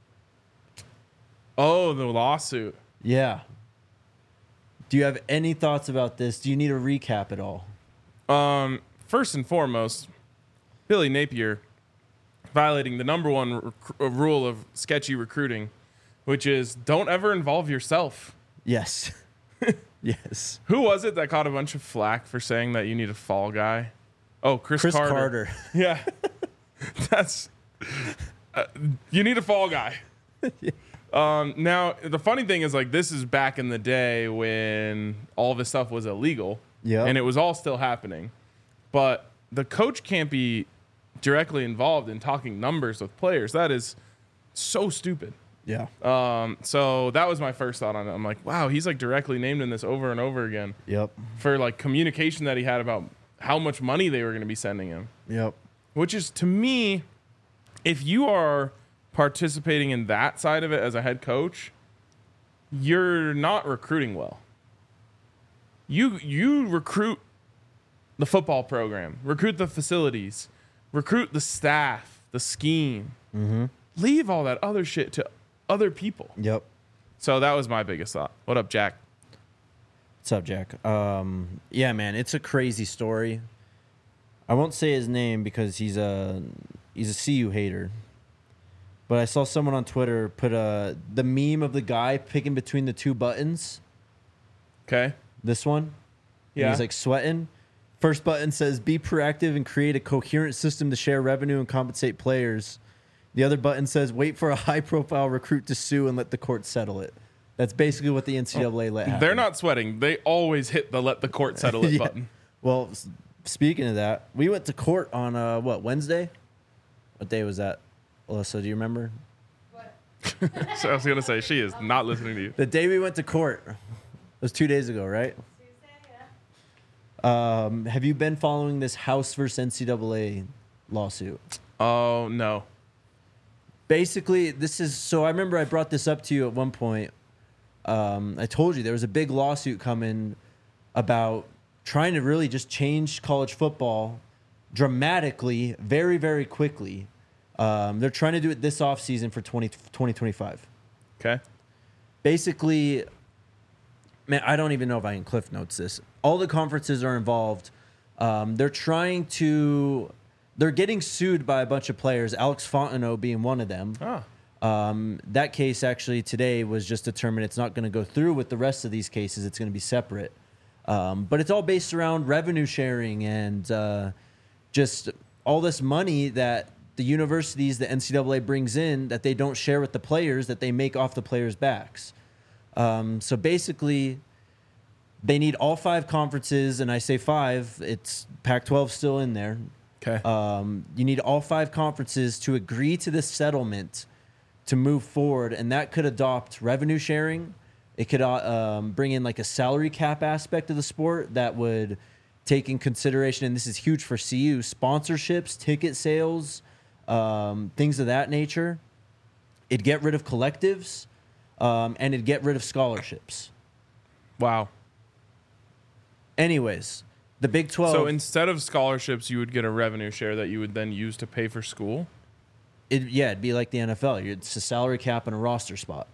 Oh, the lawsuit. Yeah. Do you have any thoughts about this? Do you need a recap at all? First and foremost, Billy Napier violating the number one rule of sketchy recruiting, which is don't ever involve yourself. Yes. Yes. Who was it that caught a bunch of flack for saying that you need a fall guy? Oh, Chris Carter. Yeah. That's you need a fall guy. Now the funny thing is, like, this is back in the day when all this stuff was illegal. Yeah. And it was all still happening. But the coach can't be directly involved in talking numbers with players. That is so stupid. Yeah. So that was my first thought on it. I'm like, wow, he's like directly named in this over and over again. Yep. For like communication that he had about how much money they were going to be sending him. Yep. Which is, to me, if you are participating in that side of it as a head coach, you're not recruiting well. You recruit the football program, recruit the facilities, recruit the staff, the scheme. Mm-hmm. Leave all that other shit to other people. Yep. So that was my biggest thought. What up, Jack? What's up, Jack? Yeah, man, it's a crazy story. I won't say his name because he's a CU hater. But I saw someone on Twitter put the meme of the guy picking between the two buttons. Okay. This one. Yeah. He's like sweating. First button says, be proactive and create a coherent system to share revenue and compensate players. The other button says, wait for a high-profile recruit to sue and let the court settle it. That's basically what the NCAA let happen. They're not sweating. They always hit the let the court settle it Yeah. button. Well, speaking of that, we went to court on, Wednesday? What day was that? Alyssa, do you remember? So I was going to say, she is not listening to you. The day we went to court. It was 2 days ago, right? Tuesday, yeah. Have you been following this House versus NCAA lawsuit? Oh, no. Basically, I remember I brought this up to you at one point. I told you there was a big lawsuit coming about trying to really just change college football dramatically, very, very quickly. They're trying to do it this offseason for 2025. Okay. Basically, man, I don't even know if I can cliff notes this. All the conferences are involved. They're getting sued by a bunch of players, Alex Fontenot being one of them. That case actually today was just determined it's not going to go through with the rest of these cases. It's going to be separate. But it's all based around revenue sharing and just all this money that the universities, the NCAA brings in that they don't share with the players that they make off the players' backs. So basically, they need all 5 conferences, and I say 5, it's Pac-12 still in there. Okay. You need all 5 conferences to agree to this settlement to move forward, and that could adopt revenue sharing. It could bring in like a salary cap aspect of the sport that would take in consideration, and this is huge for CU, sponsorships, ticket sales, things of that nature. It'd get rid of collectives, and it'd get rid of scholarships. Wow. Anyways, the Big 12... So instead of scholarships, you would get a revenue share that you would then use to pay for school? It'd be like the NFL. It's a salary cap and a roster spot.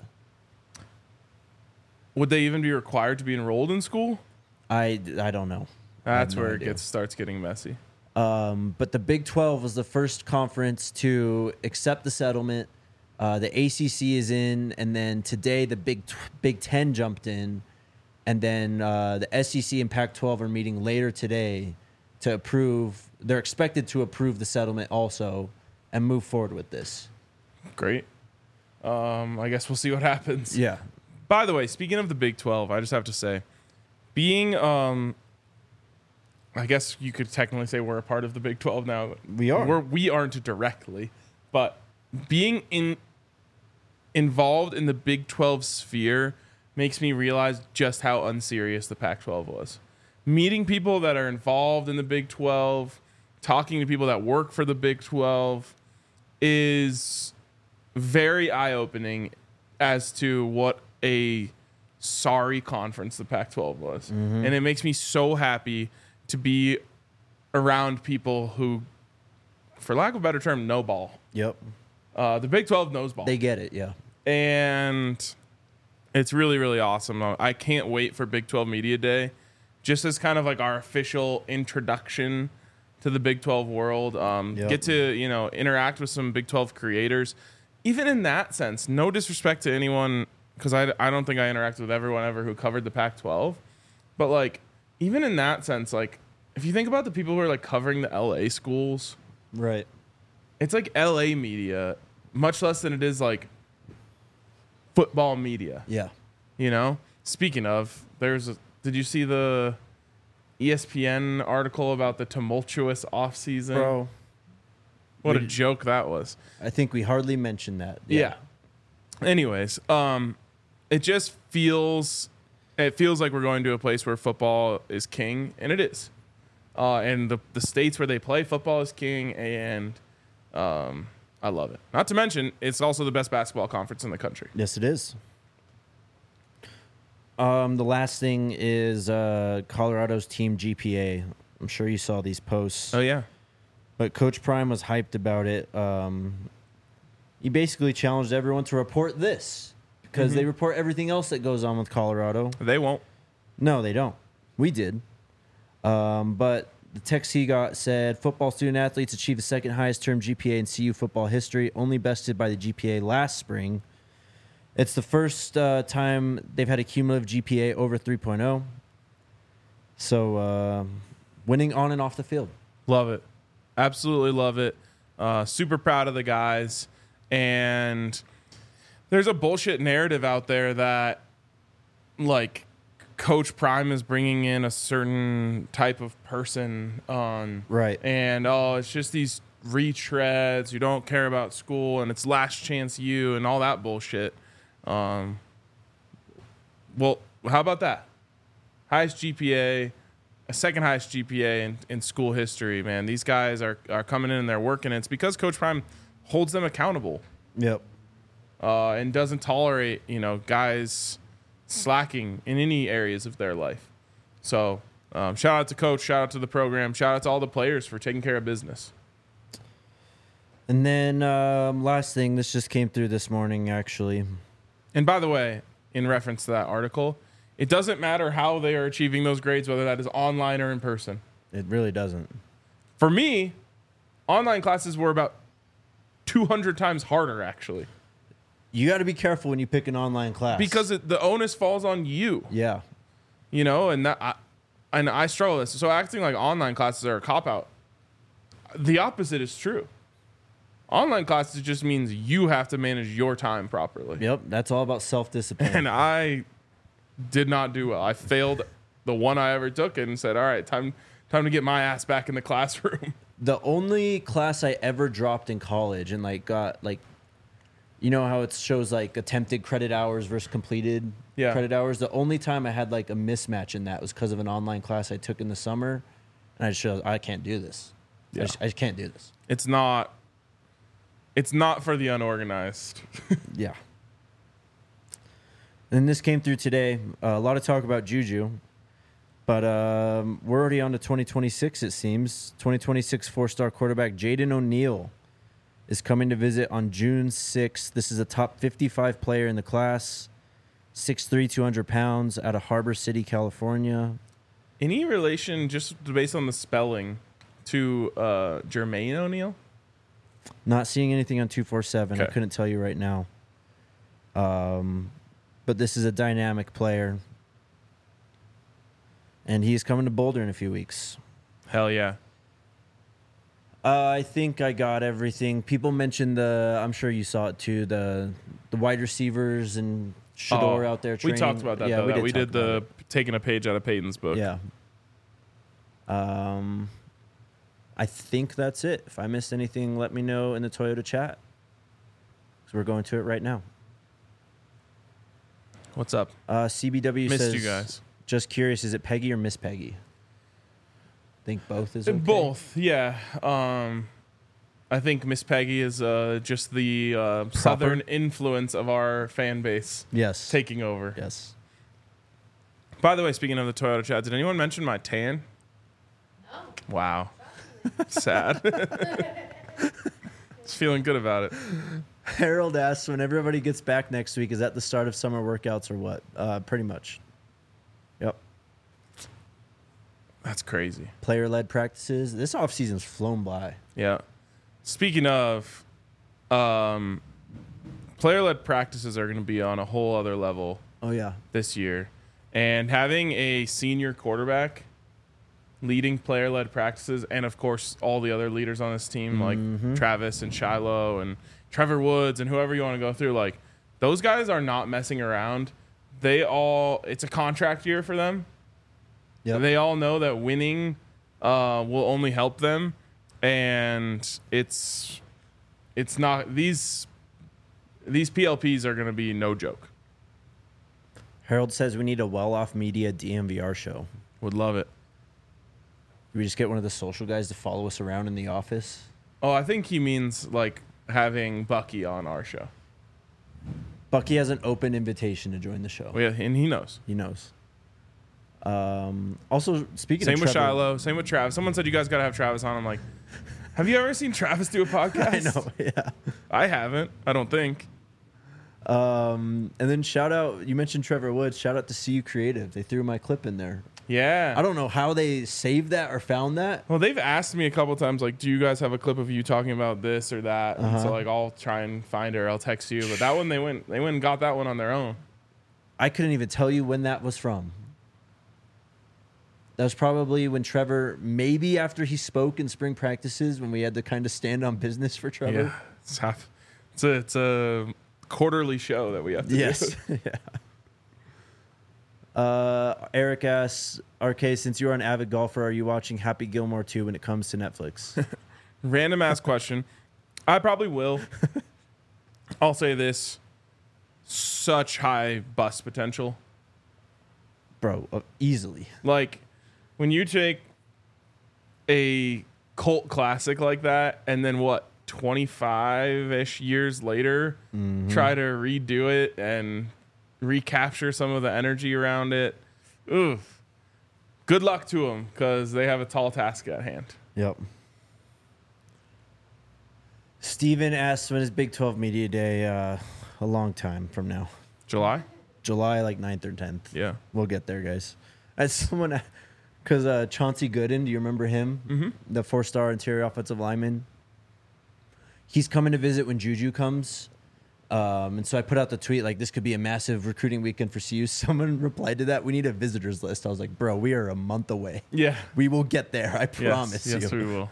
Would they even be required to be enrolled in school? I don't know. That's no where idea. it starts getting messy. But the Big 12 was the first conference to accept the settlement. The ACC is in, and then today the Big 10 jumped in, and then the SEC and Pac-12 are meeting later today to approve. They're expected to approve the settlement also and move forward with this. Great. I guess we'll see what happens. Yeah. By the way, speaking of the Big 12, I just have to say, being, I guess you could technically say we're a part of the Big 12 now. We are. We aren't directly, but being involved in the Big 12 sphere makes me realize just how unserious the Pac-12 was. Meeting people that are involved in the Big 12, talking to people that work for the Big 12 is very eye-opening as to what a sorry conference the Pac-12 was. Mm-hmm. And it makes me so happy to be around people who, for lack of a better term, know ball. Yep. The Big 12 knows ball. They get it, yeah. And it's really, really awesome. I can't wait for Big 12 Media Day, just as kind of like our official introduction to the Big 12 world. Get to, interact with some Big 12 creators. Even in that sense, no disrespect to anyone, because I don't think I interacted with everyone ever who covered the Pac-12. But, like, even in that sense, like, if you think about the people who are, like, covering the LA schools, Right. it's like LA media, much less than it is, like, football media. Yeah. Speaking of, did you see the ESPN article about the tumultuous offseason? Bro, What a joke that was. I think we hardly mentioned that. Yeah. Anyways, it just feels like we're going to a place where football is king, and it is. And the states where they play football is king, and I love it. Not to mention, it's also the best basketball conference in the country. Yes, it is. The last thing is Colorado's team GPA. I'm sure you saw these posts. Oh, yeah. But Coach Prime was hyped about it. He basically challenged everyone to report this because they report everything else that goes on with Colorado. They won't. No, they don't. We did. But the text he got said, football student athletes achieved the second highest term GPA in CU football history, only bested by the GPA last spring. It's the first time they've had a cumulative GPA over 3.0. So winning on and off the field. Love it. Absolutely love it. Super proud of the guys. And there's a bullshit narrative out there that, like, Coach Prime is bringing in a certain type of person on. Right. And, it's just these retreads who don't care about school, and it's last chance you and all that bullshit. Well, how about that? Highest GPA, a second highest GPA in school history, man. These guys are coming in and they're working. It's because Coach Prime holds them accountable. Yep. And doesn't tolerate, guys slacking in any areas of their life. So shout out to Coach, shout out to the program, shout out to all the players for taking care of business. And then last thing, this just came through this morning, actually. And by the way, in reference to that article, it doesn't matter how they are achieving those grades, whether that is online or in person. It really doesn't. For me, online classes were about 200 times harder, actually. You got to be careful when you pick an online class. Because the onus falls on you. Yeah. And I struggle with this. So acting like online classes are a cop-out. The opposite is true. Online classes just means you have to manage your time properly. Yep. That's all about self-discipline. And I did not do well. I failed the one I ever took and said, all right, time to get my ass back in the classroom. The only class I ever dropped in college and got you know how it shows like attempted credit hours versus completed credit hours? The only time I had like a mismatch in that was because of an online class I took in the summer. And I just realized I can't do this. Yeah. I just can't do this. It's not for the unorganized. Yeah. And this came through today. A lot of talk about Juju. But we're already on to 2026, it seems. 2026 four-star quarterback Jaden O'Neal is coming to visit on June 6th. This is a top 55 player in the class. 6'3", 200 pounds, out of Harbor City, California. Any relation, just based on the spelling, to Jermaine O'Neal? Not seeing anything on 247. I Okay. couldn't tell you right now. But this is a dynamic player. And he's coming to Boulder in a few weeks. Hell yeah. I think I got everything. People mentioned I'm sure you saw it too, the wide receivers and Shador out there training. We talked about that, Yeah, though. We talk did about the it. taking a page out of Peyton's book. Yeah. I think that's it. If I missed anything, let me know in the Toyota chat. So we're going to it right now. What's up? CBW Missed says, you guys. just curious, is it Peggy or Miss Peggy? Think both is okay? Both, yeah. I think Miss Peggy is just the southern influence of our fan base Yes. taking over. Yes. By the way, speaking of the Toyota chat, did anyone mention my tan? No. Wow. Sad. Just feeling good about it. Harold asks, when everybody gets back next week, is that the start of summer workouts or what? Pretty much. Yep. That's crazy. Player-led practices. This offseason's flown by. Yeah. Speaking of, player-led practices are going to be on a whole other level Oh, yeah. this year. And having a senior quarterback leading player-led practices, and of course all the other leaders on this team, like Travis and Shiloh and Trevor Woods and whoever you want to go through, like those guys are not messing around. It's a contract year for them. Yep. They all know that winning will only help them, and it's not these PLPs are going to be no joke. Harold says we need a well-off media DMVR show. Would love it. We just get one of the social guys to follow us around in the office. Oh, I think he means like having Bucky on our show. Bucky has an open invitation to join the show. Oh, yeah, and he knows. He knows. Also, speaking Same of with Trevor, Shiloh. Same with Travis. Someone said you guys got to have Travis on. I'm like, have you ever seen Travis do a podcast? I know, yeah. I haven't. I don't think. And then shout out, you mentioned Trevor Woods. Shout out to CU Creative. They threw my clip in there. Yeah. I don't know how they saved that or found that. Well, they've asked me a couple times, like, do you guys have a clip of you talking about this or that? And so, like, I'll try and find it or I'll text you. But that one, they went and got that one on their own. I couldn't even tell you when that was from. That was probably when Trevor, maybe after he spoke in spring practices, when we had to kind of stand on business for Trevor. Yeah. It's a quarterly show that we have to Yes. do. Yeah. Eric asks, RK, since you're an avid golfer, are you watching Happy Gilmore 2 when it comes to Netflix? Random ass question. I probably will. I'll say this. Such high bust potential. Bro, easily. Like, when you take a cult classic like that and then 25-ish years later try to redo it and recapture some of the energy around it. Oof. Good luck to them because they have a tall task at hand. Yep. Steven asks, when is Big 12 Media Day? A long time from now. July? July, like 9th or 10th. Yeah. We'll get there, guys. As someone, because Chauncey Gooden, do you remember him? Mm-hmm. The 4-star interior offensive lineman. He's coming to visit when Juju comes. And so I put out the tweet, like, this could be a massive recruiting weekend for CU. Someone replied to that, we need a visitors list. I was like, bro, we are a month away. Yeah. We will get there. I promise you. Yes, we will.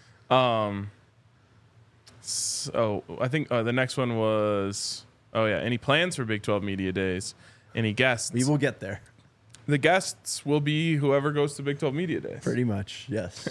So I think the next one was, any plans for Big 12 Media Days? Any guests? We will get there. The guests will be whoever goes to Big 12 Media Days. Pretty much, yes.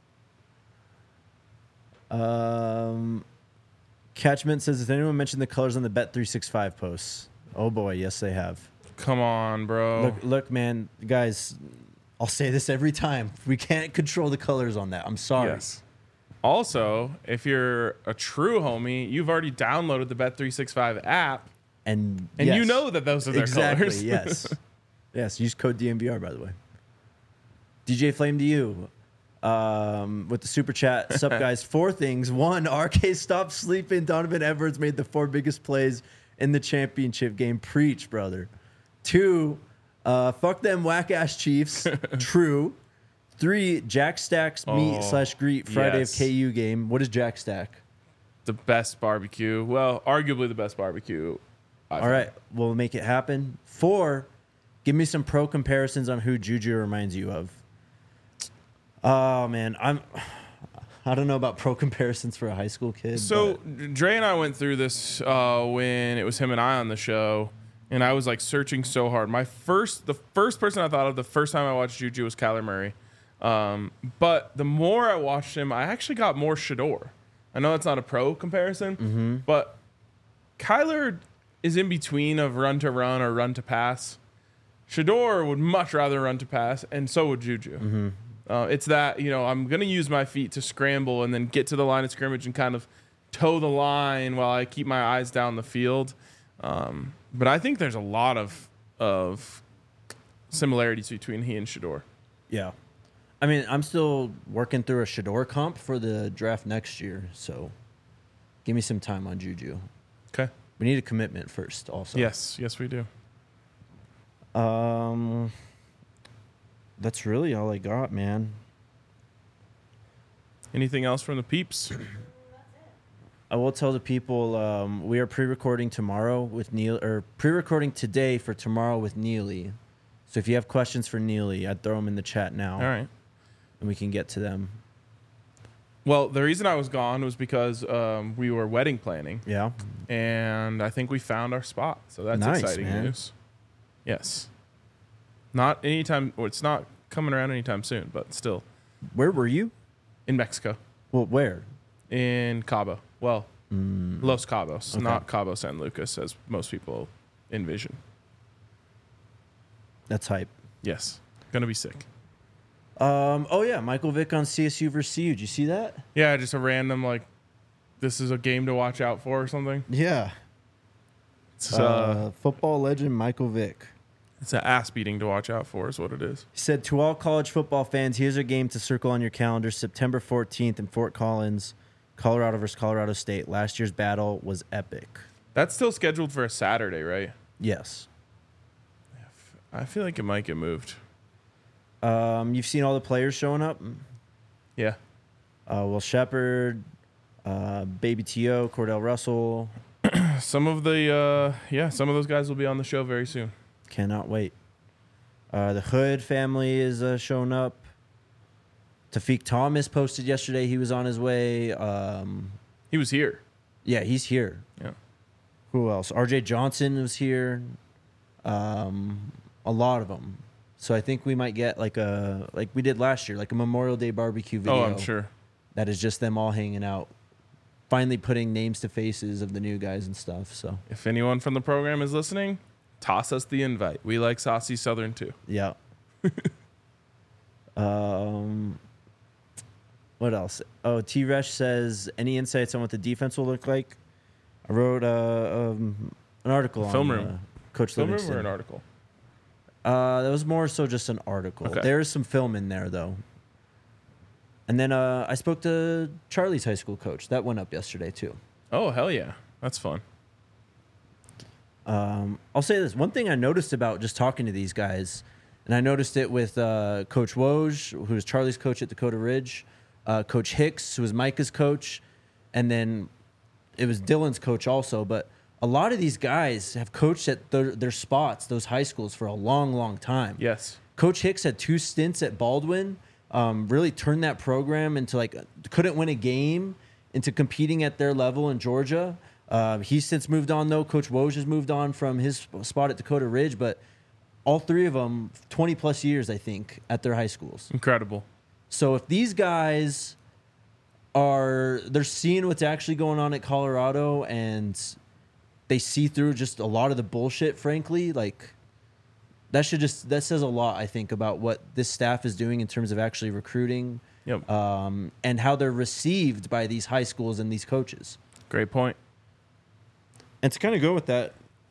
Catchment says, has anyone mentioned the colors on the Bet365 posts? Oh boy, yes they have. Come on, bro. Look, man, guys, I'll say this every time. We can't control the colors on that. I'm sorry. Yes. Also, if you're a true homie, you've already downloaded the Bet365 app, and yes, you know that those are their colors. Yes. Yes, use code DMVR, by the way. DJ Flame to you. With the super chat. Sup, guys? 4 things. 1, RK stopped sleeping. Donovan Edwards made the 4 biggest plays in the championship game. Preach, brother. 2, fuck them whack-ass Chiefs. True. 3, Jack Stack's meet/greet Friday of KU game. What is Jack Stack? The best barbecue. Well, arguably the best barbecue. All right, we'll make it happen. 4, give me some pro comparisons on who Juju reminds you of. Oh man, I don't know about pro comparisons for a high school kid. So Dre and I went through this when it was him and I on the show, and I was like searching so hard. The first person I thought of the first time I watched Juju was Kyler Murray, but the more I watched him, I actually got more Shador. I know that's not a pro comparison, but Kyler is in between of run to run or run to pass. Shador would much rather run to pass, and so would Juju. It's that, I'm going to use my feet to scramble and then get to the line of scrimmage and kind of toe the line while I keep my eyes down the field. But I think there's a lot of similarities between he and Shador. Yeah. I mean, I'm still working through a Shador comp for the draft next year, so give me some time on Juju. Okay. We need a commitment first also. Yes, we do. That's really all I got, man. Anything else from the peeps? I will tell the people we are pre-recording tomorrow with Neil, or pre-recording today for tomorrow with Neely. So if you have questions for Neely, I'd throw them in the chat now. All right. And we can get to them. Well, the reason I was gone was because we were wedding planning, Yeah. and I think we found our spot. So that's Nice, exciting man. news. Yes. Not anytime, or it's not coming around anytime soon, but still Where were you? in Mexico, Well, where? in Cabo. Well, Los Cabos, Okay. not Cabo San Lucas, as most people envision. That's hype. Yes. Gonna be sick. Oh yeah, Michael Vick on CSU versus CU. Did you see that? Yeah, just a random, like, this is a game to watch out for or something. Yeah. It's, Football legend Michael Vick. it's an ass beating to watch out for, is what it is. He said, to all college football fans, here's a game to circle on your calendar. September 14th in Fort Collins, Colorado versus Colorado State. Last year's battle was epic. That's still scheduled for a Saturday, right? Yes. I feel like it might get moved. You've seen all the players showing up? Yeah. Will Shepard, Baby T.O., Cordell Russell. Some of some of those guys will be on the show very soon. Cannot wait. The Hood family is showing up. Tafiq Thomas posted yesterday he was on his way. He was here. Yeah, he's here. Yeah. Who else? R.J. Johnson was here. A lot of them. So I think we might get like we did last year, like a Memorial Day barbecue video. Oh, I'm sure. That is just them all hanging out, finally putting names to faces of the new guys and stuff. So If anyone from the program is listening, toss us the invite. We like Saucy Southern too. yeah. What else? Oh, T-Resh says, any insights on what the defense will look like? I wrote an article Film on room. Coach Film room Livingston. or an article? That was more so just an article. Okay. There is some film in there, though. And then I spoke to Charlie's high school coach. That went up yesterday, too. Oh, hell yeah. That's fun. I'll say this. One thing I noticed about just talking to these guys, and I noticed it with Coach Woj, who was Charlie's coach at Dakota Ridge, Coach Hicks, who was Micah's coach, and then it was Dylan's coach also. But a lot of these guys have coached at their spots, those high schools, for a long, long time. Yes. Coach Hicks had 2 stints at Baldwin, really turned that program into couldn't win a game, into competing at their level in Georgia. He's since moved on, though. Coach Woj has moved on from his spot at Dakota Ridge, but all 3 of them, 20-plus years, I think, at their high schools. Incredible. So if these guys they're seeing what's actually going on at Colorado and they see through just a lot of the bullshit, frankly, that says a lot, I think, about what this staff is doing in terms of actually recruiting. Yep. And how they're received by these high schools and these coaches. Great point. And to kind of go with that,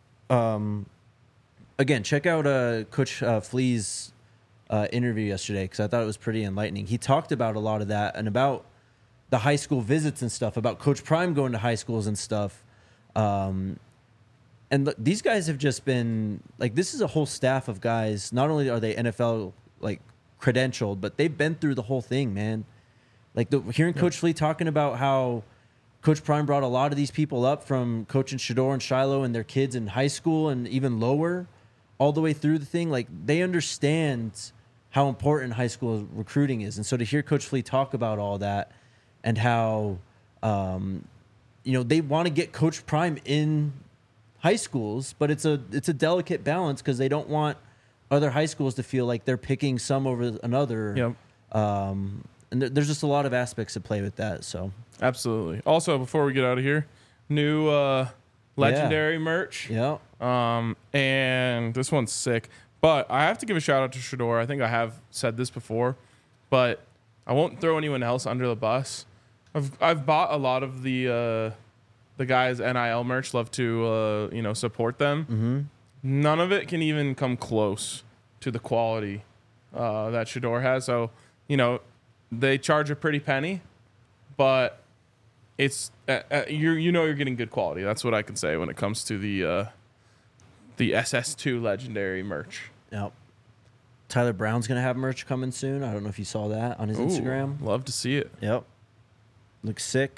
again, check out Coach Flea's interview yesterday, because I thought it was pretty enlightening. He talked about a lot of that and about the high school visits and stuff, about Coach Prime going to high schools and stuff. And these guys have just been, this is a whole staff of guys. Not only are they NFL, credentialed, but they've been through the whole thing, man. Hearing Coach Flea talking about how Coach Prime brought a lot of these people up from coaching Shador and Shiloh and their kids in high school and even lower, all the way through the thing. They understand how important high school recruiting is. And so to hear Coach Flea talk about all that and how, they want to get Coach Prime in high schools, but it's a delicate balance because they don't want other high schools to feel like they're picking some over another. Yep. And there's just a lot of aspects at play with that. So Absolutely. Also, before we get out of here, new legendary merch. yeah, And this one's sick. But I have to give a shout out to Shador. I think I have said this before, but I won't throw anyone else under the bus. I've bought a lot of the guys' NIL merch. Love to support them. Mm-hmm. None of it can even come close to the quality that Shador has. So they charge a pretty penny, but it's you're getting good quality. That's what I can say when it comes to the SS2 legendary merch. Yep. Tyler Brown's going to have merch coming soon. I don't know if you saw that on his Instagram. Love to see it. Yep. Looks sick.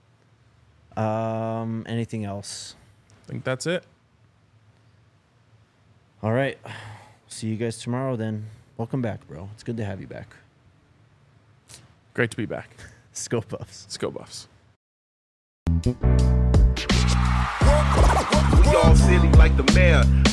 Anything else? I think that's it. All right. See you guys tomorrow then. Welcome back, bro. It's good to have you back. Great to be back. Scope Buffs. Let's go, Buffs. We all silly like the mayor.